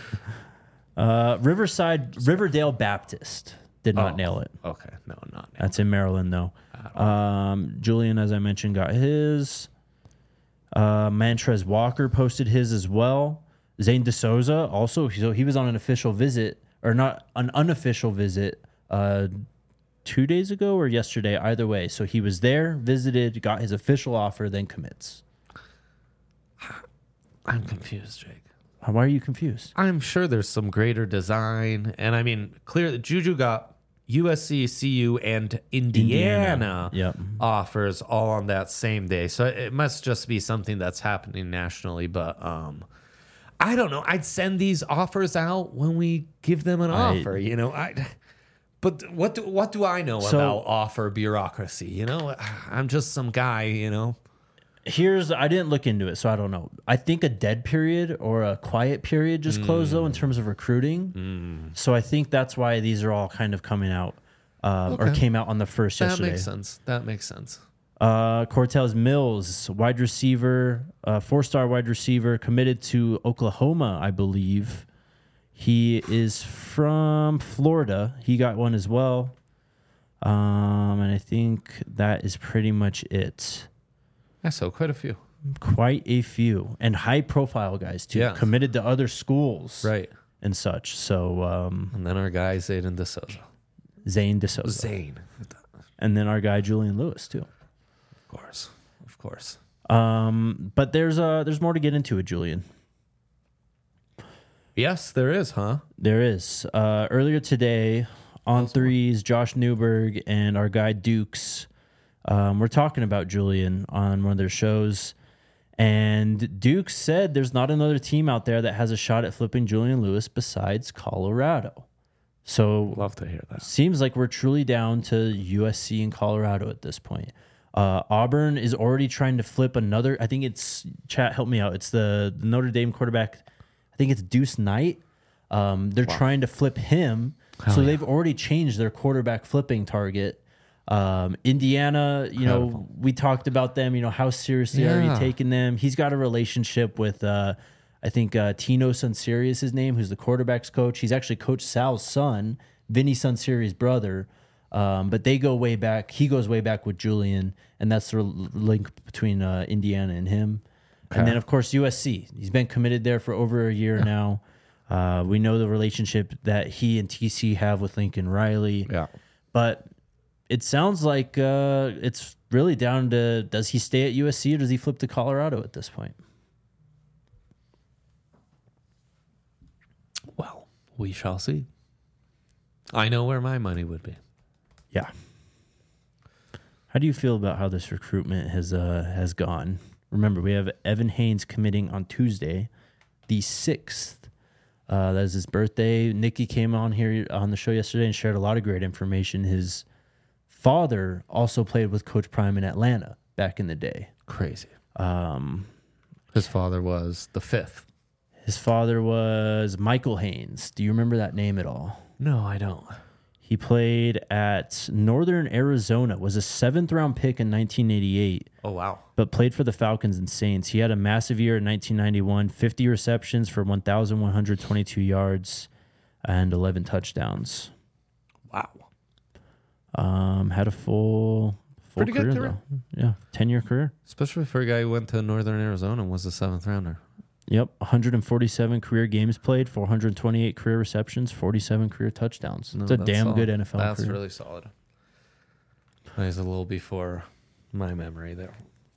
Riverdale Baptist did not nail it. Okay. No, not nailed. That's in Maryland, though. Julian, as I mentioned, got his. Mantrez Walker posted his as well. Zane DeSouza also. So he was on an official visit, or not an unofficial visit, 2 days ago or yesterday, either way. So he was there, visited, got his official offer, then commits. I'm confused, Jake. Why are you confused? I'm sure there's some greater design. And I mean, clear that Juju got USC, CU, and Indiana Yep. offers all on that same day. So it must just be something that's happening nationally. But I don't know. I'd send these offers out when we give them an offer. You know, but what do I know about offer bureaucracy? You know, I'm just some guy. You know. I didn't look into it, so I don't know. I think a dead period or a quiet period just closed, though, in terms of recruiting. So I think that's why these are all kind of coming out or came out on the first yesterday. That makes sense. Cortez Mills, wide receiver, 4-star wide receiver, committed to Oklahoma, I believe. He is from Florida. He got one as well. And I think that is pretty much it. Yeah, so quite a few. Quite a few. And high-profile guys, too. Yeah. Committed to other schools. Right. And such. So, And then our guy, Zayden DeSouza. Zane DeSouza. Zane. And then our guy, Julian Lewis, too. Of course. But there's more to get into with Julian. Yes, there is, huh? There is. Earlier today, on threes, Josh Newberg and our guy Dukes were talking about Julian on one of their shows. And Dukes said there's not another team out there that has a shot at flipping Julian Lewis besides Colorado. So Love to hear that. seems like we're truly down to USC and Colorado at this point. Auburn is already trying to flip another. I think it's, chat, help me out. It's the Notre Dame quarterback. I think it's Deuce Knight. They're trying to flip him. So they've already changed their quarterback flipping target. Indiana, know, we talked about them. How seriously are you taking them? He's got a relationship with, I think, Tino Sunseri is his name, who's the quarterback's coach. He's actually Coach Sal's son, Vinny Sunseri's brother. But they go way back. He goes way back with Julian, and that's the link between Indiana and him. Okay. And then, of course, USC. He's been committed there for over a year now. We know the relationship that he and TC have with Lincoln Riley. Yeah. But it sounds like it's really down to, does he stay at USC or does he flip to Colorado at this point? Well, we shall see. I know where my money would be. Yeah. How do you feel about how this recruitment has gone? Remember, we have Evan Haynes committing on Tuesday, the 6th. That is his birthday. Nikki came on here on the show yesterday and shared a lot of great information. His father also played with Coach Prime in Atlanta back in the day. Crazy. His father was the 5th. His father was Michael Haynes. Do you remember that name at all? No, I don't. He played at Northern Arizona, was a 7th-round pick in 1988. Oh, wow. But played for the Falcons and Saints. He had a massive year in 1991, 50 receptions for 1,122 yards and 11 touchdowns. Wow. Had a full Pretty career, good career. though. Yeah, 10-year career. Especially for a guy who went to Northern Arizona and was a 7th rounder. Yep, 147 career games played, 428 career receptions, 47 career touchdowns. It's a damn solid. good NFL career. That's really solid. He's a little before my memory there.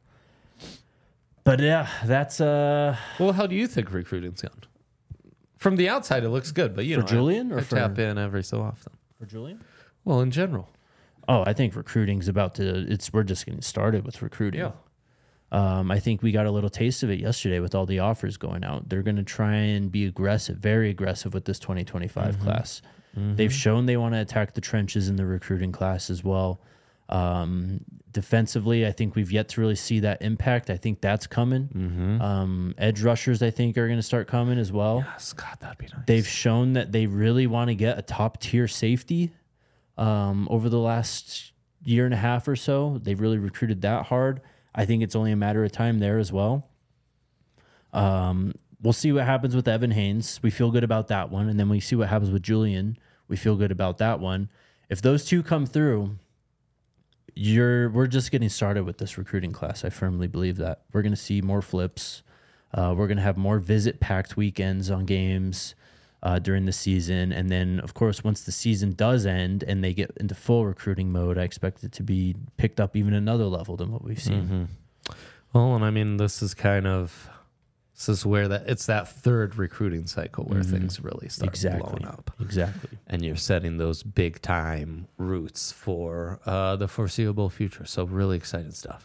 But yeah, that's Well, how do you think recruiting's gone? From the outside, it looks good, but you For know, Julian or I for- tap in every so often. for Julian. Well, in general, Oh, I think recruiting's about to. We're just getting started with recruiting. Yeah. I think we got a little taste of it yesterday with all the offers going out. They're going to try and be aggressive, very aggressive with this 2025 class. They've shown they want to attack the trenches in the recruiting class as well. Defensively, I think we've yet to really see that impact. I think that's coming. Edge rushers, I think, are going to start coming as well. yes, God, that'd be nice. They've shown that they really want to get a top tier safety over the last year and a half or so. They've really recruited that hard. I think it's only a matter of time there as well. We'll see what happens with Evan Haynes. We feel good about that one. And then we see what happens with Julian. We feel good about that one. If those two come through, we're just getting started with this recruiting class. I firmly believe that. We're going to see more flips. We're going to have more visit-packed weekends on games during the season. And then, of course, once the season does end and they get into full recruiting mode, I expect it to be picked up even another level than what we've seen. Well, and I mean, this is where it's that third recruiting cycle where things really start blowing up. Exactly. And you're setting those big time roots for the foreseeable future. So really exciting stuff.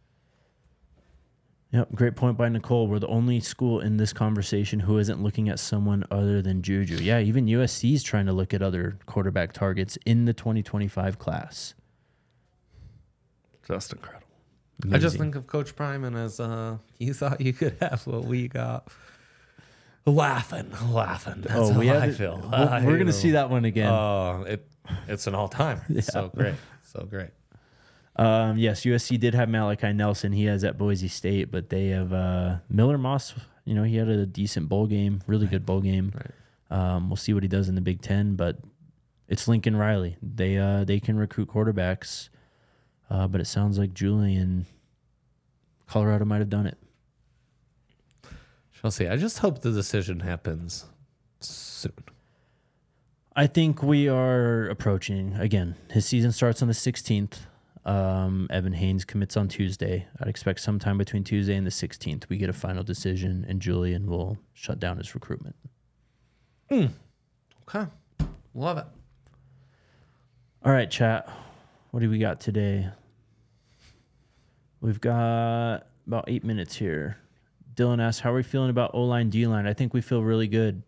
Yep, great point by Nicole. We're the only school in this conversation who isn't looking at someone other than Juju. Yeah, even USC is trying to look at other quarterback targets in the 2025 class. Just incredible. Amazing. I just think of Coach Prime and as you thought you could have what we got. Laughing. That's how I feel. We're going to see that one again. Oh, it's an all-timer. It's so great. So great. Yes, USC did have Malachi Nelson. He has at Boise State, but they have Miller Moss. You know, he had a decent bowl game, really good bowl game. We'll see what he does in the Big Ten, but it's Lincoln Riley. They can recruit quarterbacks, but it sounds like Julian, Colorado might have done it. Shall see. I just hope the decision happens soon. I think we are approaching, again, his season starts on the 16th. Evan Haynes commits on Tuesday. I'd expect sometime between Tuesday and the 16th we get a final decision, and Julian will shut down his recruitment. Okay. Love it. All right, chat. What do we got today? We've got about 8 minutes here. Dylan asks, how are we feeling about O-line, D-line? I think we feel really good.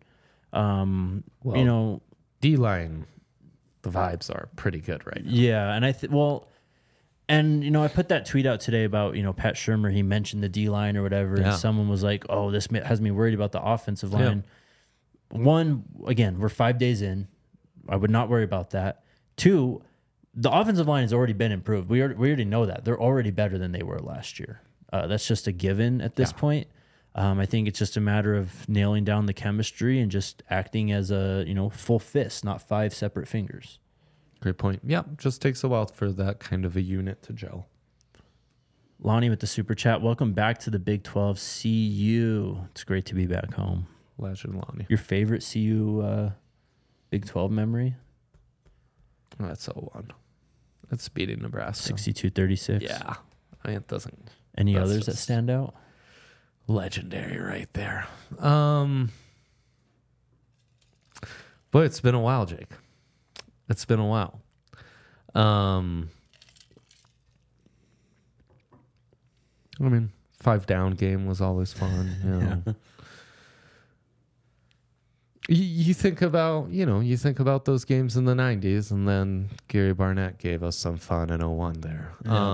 D-line, the vibes are pretty good right now. Yeah, and I I put that tweet out today about, Pat Shurmur. He mentioned the D-line or whatever, and someone was like, oh, this has me worried about the offensive line. Yeah. One, again, we're 5 days in. I would not worry about that. Two, the offensive line has already been improved. We already know that. They're already better than they were last year. That's just a given at this point. I think it's just a matter of nailing down the chemistry and just acting as a, full fist, not 5 separate fingers. Great point. Yeah, just takes a while for that kind of a unit to gel. Lonnie with the super chat. Welcome back to the Big 12 CU. It's great to be back home. Legend Lonnie. Your favorite CU Big 12 memory? Oh, that's 0-1. That's beating Nebraska. 62-36. Yeah. I mean, it doesn't. Any others that stand out? Legendary right there. But it's been a while, Jake. It's been a while. I mean, 5 down game was always fun. Yeah. You think about, those games in the 90s, and then Gary Barnett gave us some fun in 01 there.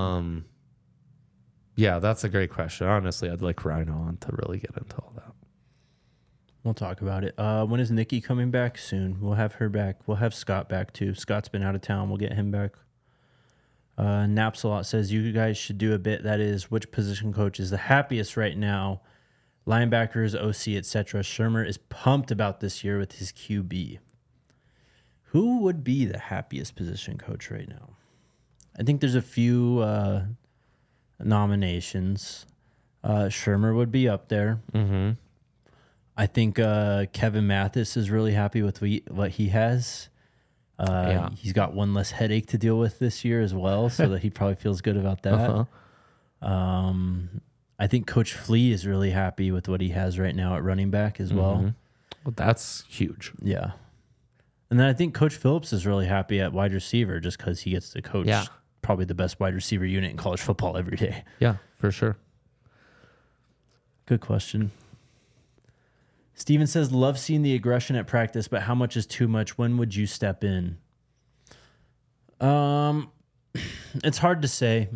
Yeah, that's a great question. Honestly, I'd like Rhino on to really get into all that. We'll talk about it. When is Nikki coming back? Soon. We'll have her back. We'll have Scott back too. Scott's been out of town. We'll get him back. Napsalot says, you guys should do a bit that is which position coach is the happiest right now. Linebackers, OC, etc. Shurmur is pumped about this year with his QB. Who would be the happiest position coach right now? I think there's a few nominations. Shurmur would be up there. Mm-hmm. I think Kevin Mathis is really happy with what he has. He's got one less headache to deal with this year as well, so that he probably feels good about that. I think Coach Flea is really happy with what he has right now at running back as well. Well, that's huge. Yeah. And then I think Coach Phillips is really happy at wide receiver just because he gets to coach probably the best wide receiver unit in college football every day. Yeah, for sure. Good question. Steven says, love seeing the aggression at practice, but how much is too much? When would you step in? It's hard to say.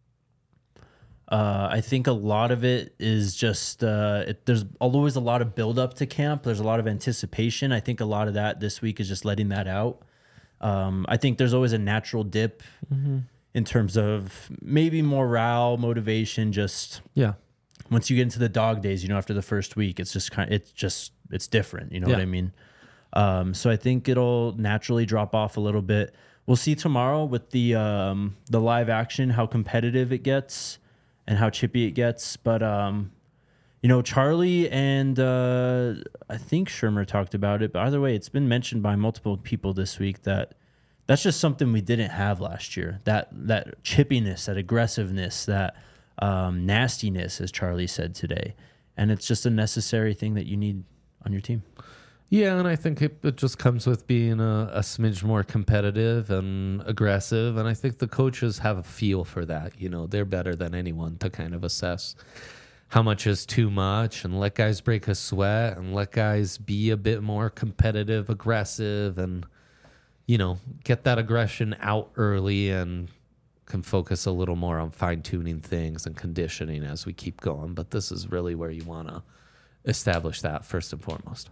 I think a lot of it is just there's always a lot of build up to camp. There's a lot of anticipation. I think a lot of that this week is just letting that out. I think there's always a natural dip in terms of maybe morale, motivation. Just once you get into the dog days, after the first week, it's just it's different. You know what I mean? So I think it'll naturally drop off a little bit. We'll see tomorrow with the live action how competitive it gets and how chippy it gets. But, Charlie and I think Shurmur talked about it. But either way, it's been mentioned by multiple people this week that's just something we didn't have last year. That chippiness, that aggressiveness, that nastiness, as Charlie said today. And it's just a necessary thing that you need on your team. Yeah, and I think it just comes with being a smidge more competitive and aggressive. And I think the coaches have a feel for that. They're better than anyone to kind of assess how much is too much and let guys break a sweat and let guys be a bit more competitive, aggressive, and, get that aggression out early and can focus a little more on fine-tuning things and conditioning as we keep going. But this is really where you want to establish that first and foremost.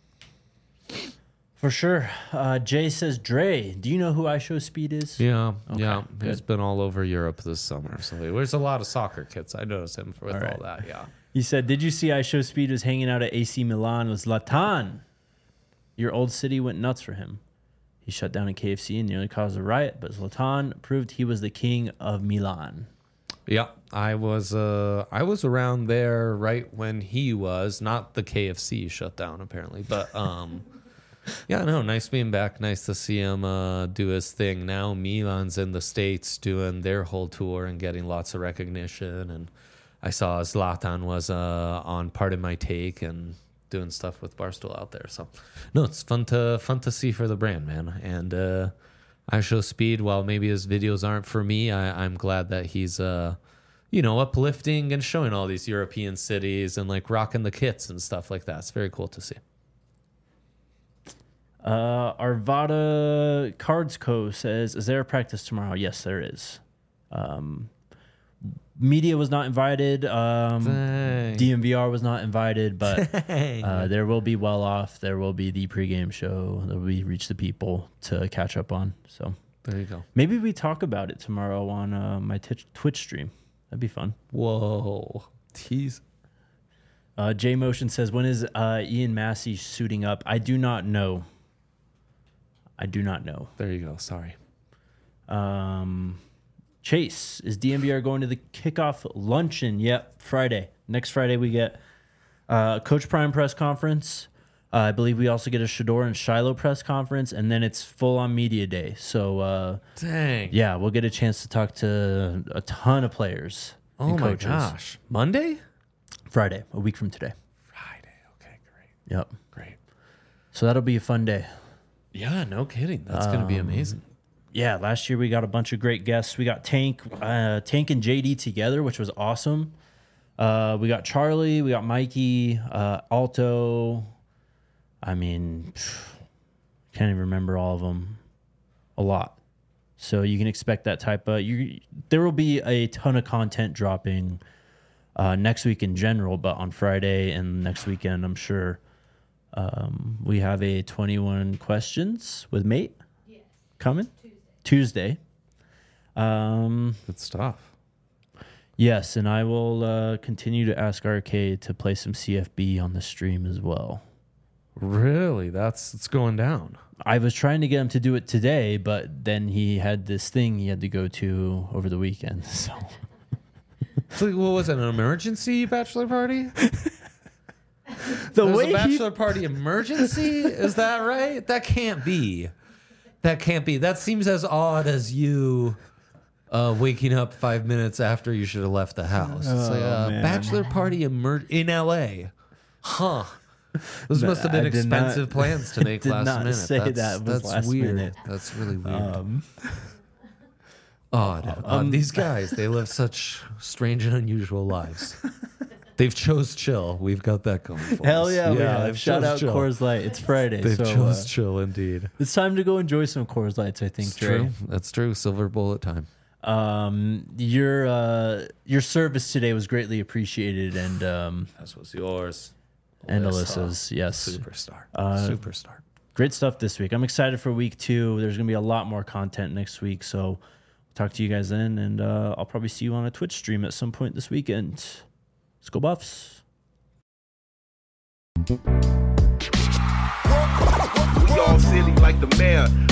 For sure. Jay says, Dre, do you know who I Show Speed is? Yeah, Okay, yeah. good. He's been all over Europe this summer. So there's a lot of soccer kits. I noticed him with all that, yeah. He said, did you see I Show Speed was hanging out at AC Milan with Zlatan? Your old city went nuts for him. He shut down a KFC and nearly caused a riot, but Zlatan proved he was the king of Milan. Yeah, I was around there right when he was, not the KFC shut down apparently, but yeah, no, nice being back. Nice to see him do his thing. Now Milan's in the States doing their whole tour and getting lots of recognition. And I saw Zlatan was on Part of My Take and doing stuff with Barstool out there. So no, it's fun to see for the brand, man. And I Show Speed, while maybe his videos aren't for me, I'm glad that he's uplifting and showing all these European cities and like rocking the kits and stuff like that. It's very cool to see. Arvada Cards Co. says, is there a practice tomorrow? Yes, there is. Media was not invited. DMVR was not invited, but there will be Well Off. There will be the pregame show. There will be Reach the People to catch up on. So there you go. Maybe we talk about it tomorrow on my Twitch stream. That'd be fun. Whoa. Tease. J Motion says, when is Ian Massey suiting up? I do not know. There you go. Sorry. Chase, is DMVR going to the kickoff luncheon? Yep, Friday. Next Friday we get Coach Prime press conference. I believe we also get a Shador and Shiloh press conference, and then it's full on media day. So, dang. Yeah, we'll get a chance to talk to a ton of players. Oh and my coaches. gosh. Monday? Friday, a week from today. Friday. Okay, great. Yep. Great. So that'll be a fun day. Yeah, no kidding. That's going to be amazing. Yeah, last year we got a bunch of great guests. We got Tank and JD together, which was awesome. We got Charlie, we got Mikey, Alto. I mean, can't even remember all of them. A lot. So you can expect that type of... there will be a ton of content dropping next week in general, but on Friday and next weekend, I'm sure we have a 21 questions with Mate coming. Tuesday. Good stuff. Yes, and I will continue to ask RK to play some CFB on the stream as well. Really? It's going down. I was trying to get him to do it today, but then he had this thing he had to go to over the weekend. So, what was it, an emergency bachelor party? The There's way a bachelor party emergency? Is that right? That can't be. That seems as odd as you waking up 5 minutes after you should have left the house. It's like a bachelor party in LA. Huh. Those must have been expensive plans to make last minute. Say that's last weird. Minute. That's really weird. Odd. These guys, they live such strange and unusual lives. They've chose chill. We've got that going for us. Hell yeah, we they've have. Shout out chill. Coors Light. It's Friday. They've so, chose chill indeed. It's time to go enjoy some Coors Lights, I think, It's Trey. true. That's true. Silver bullet time. Your service today was greatly appreciated, and As was yours. and Alyssa's, yes. Superstar. Superstar. Great stuff this week. I'm excited for week 2. There's going to be a lot more content next week, so we'll talk to you guys then, and I'll probably see you on a Twitch stream at some point this weekend. Let's go Buffs. We all silly like the mayor.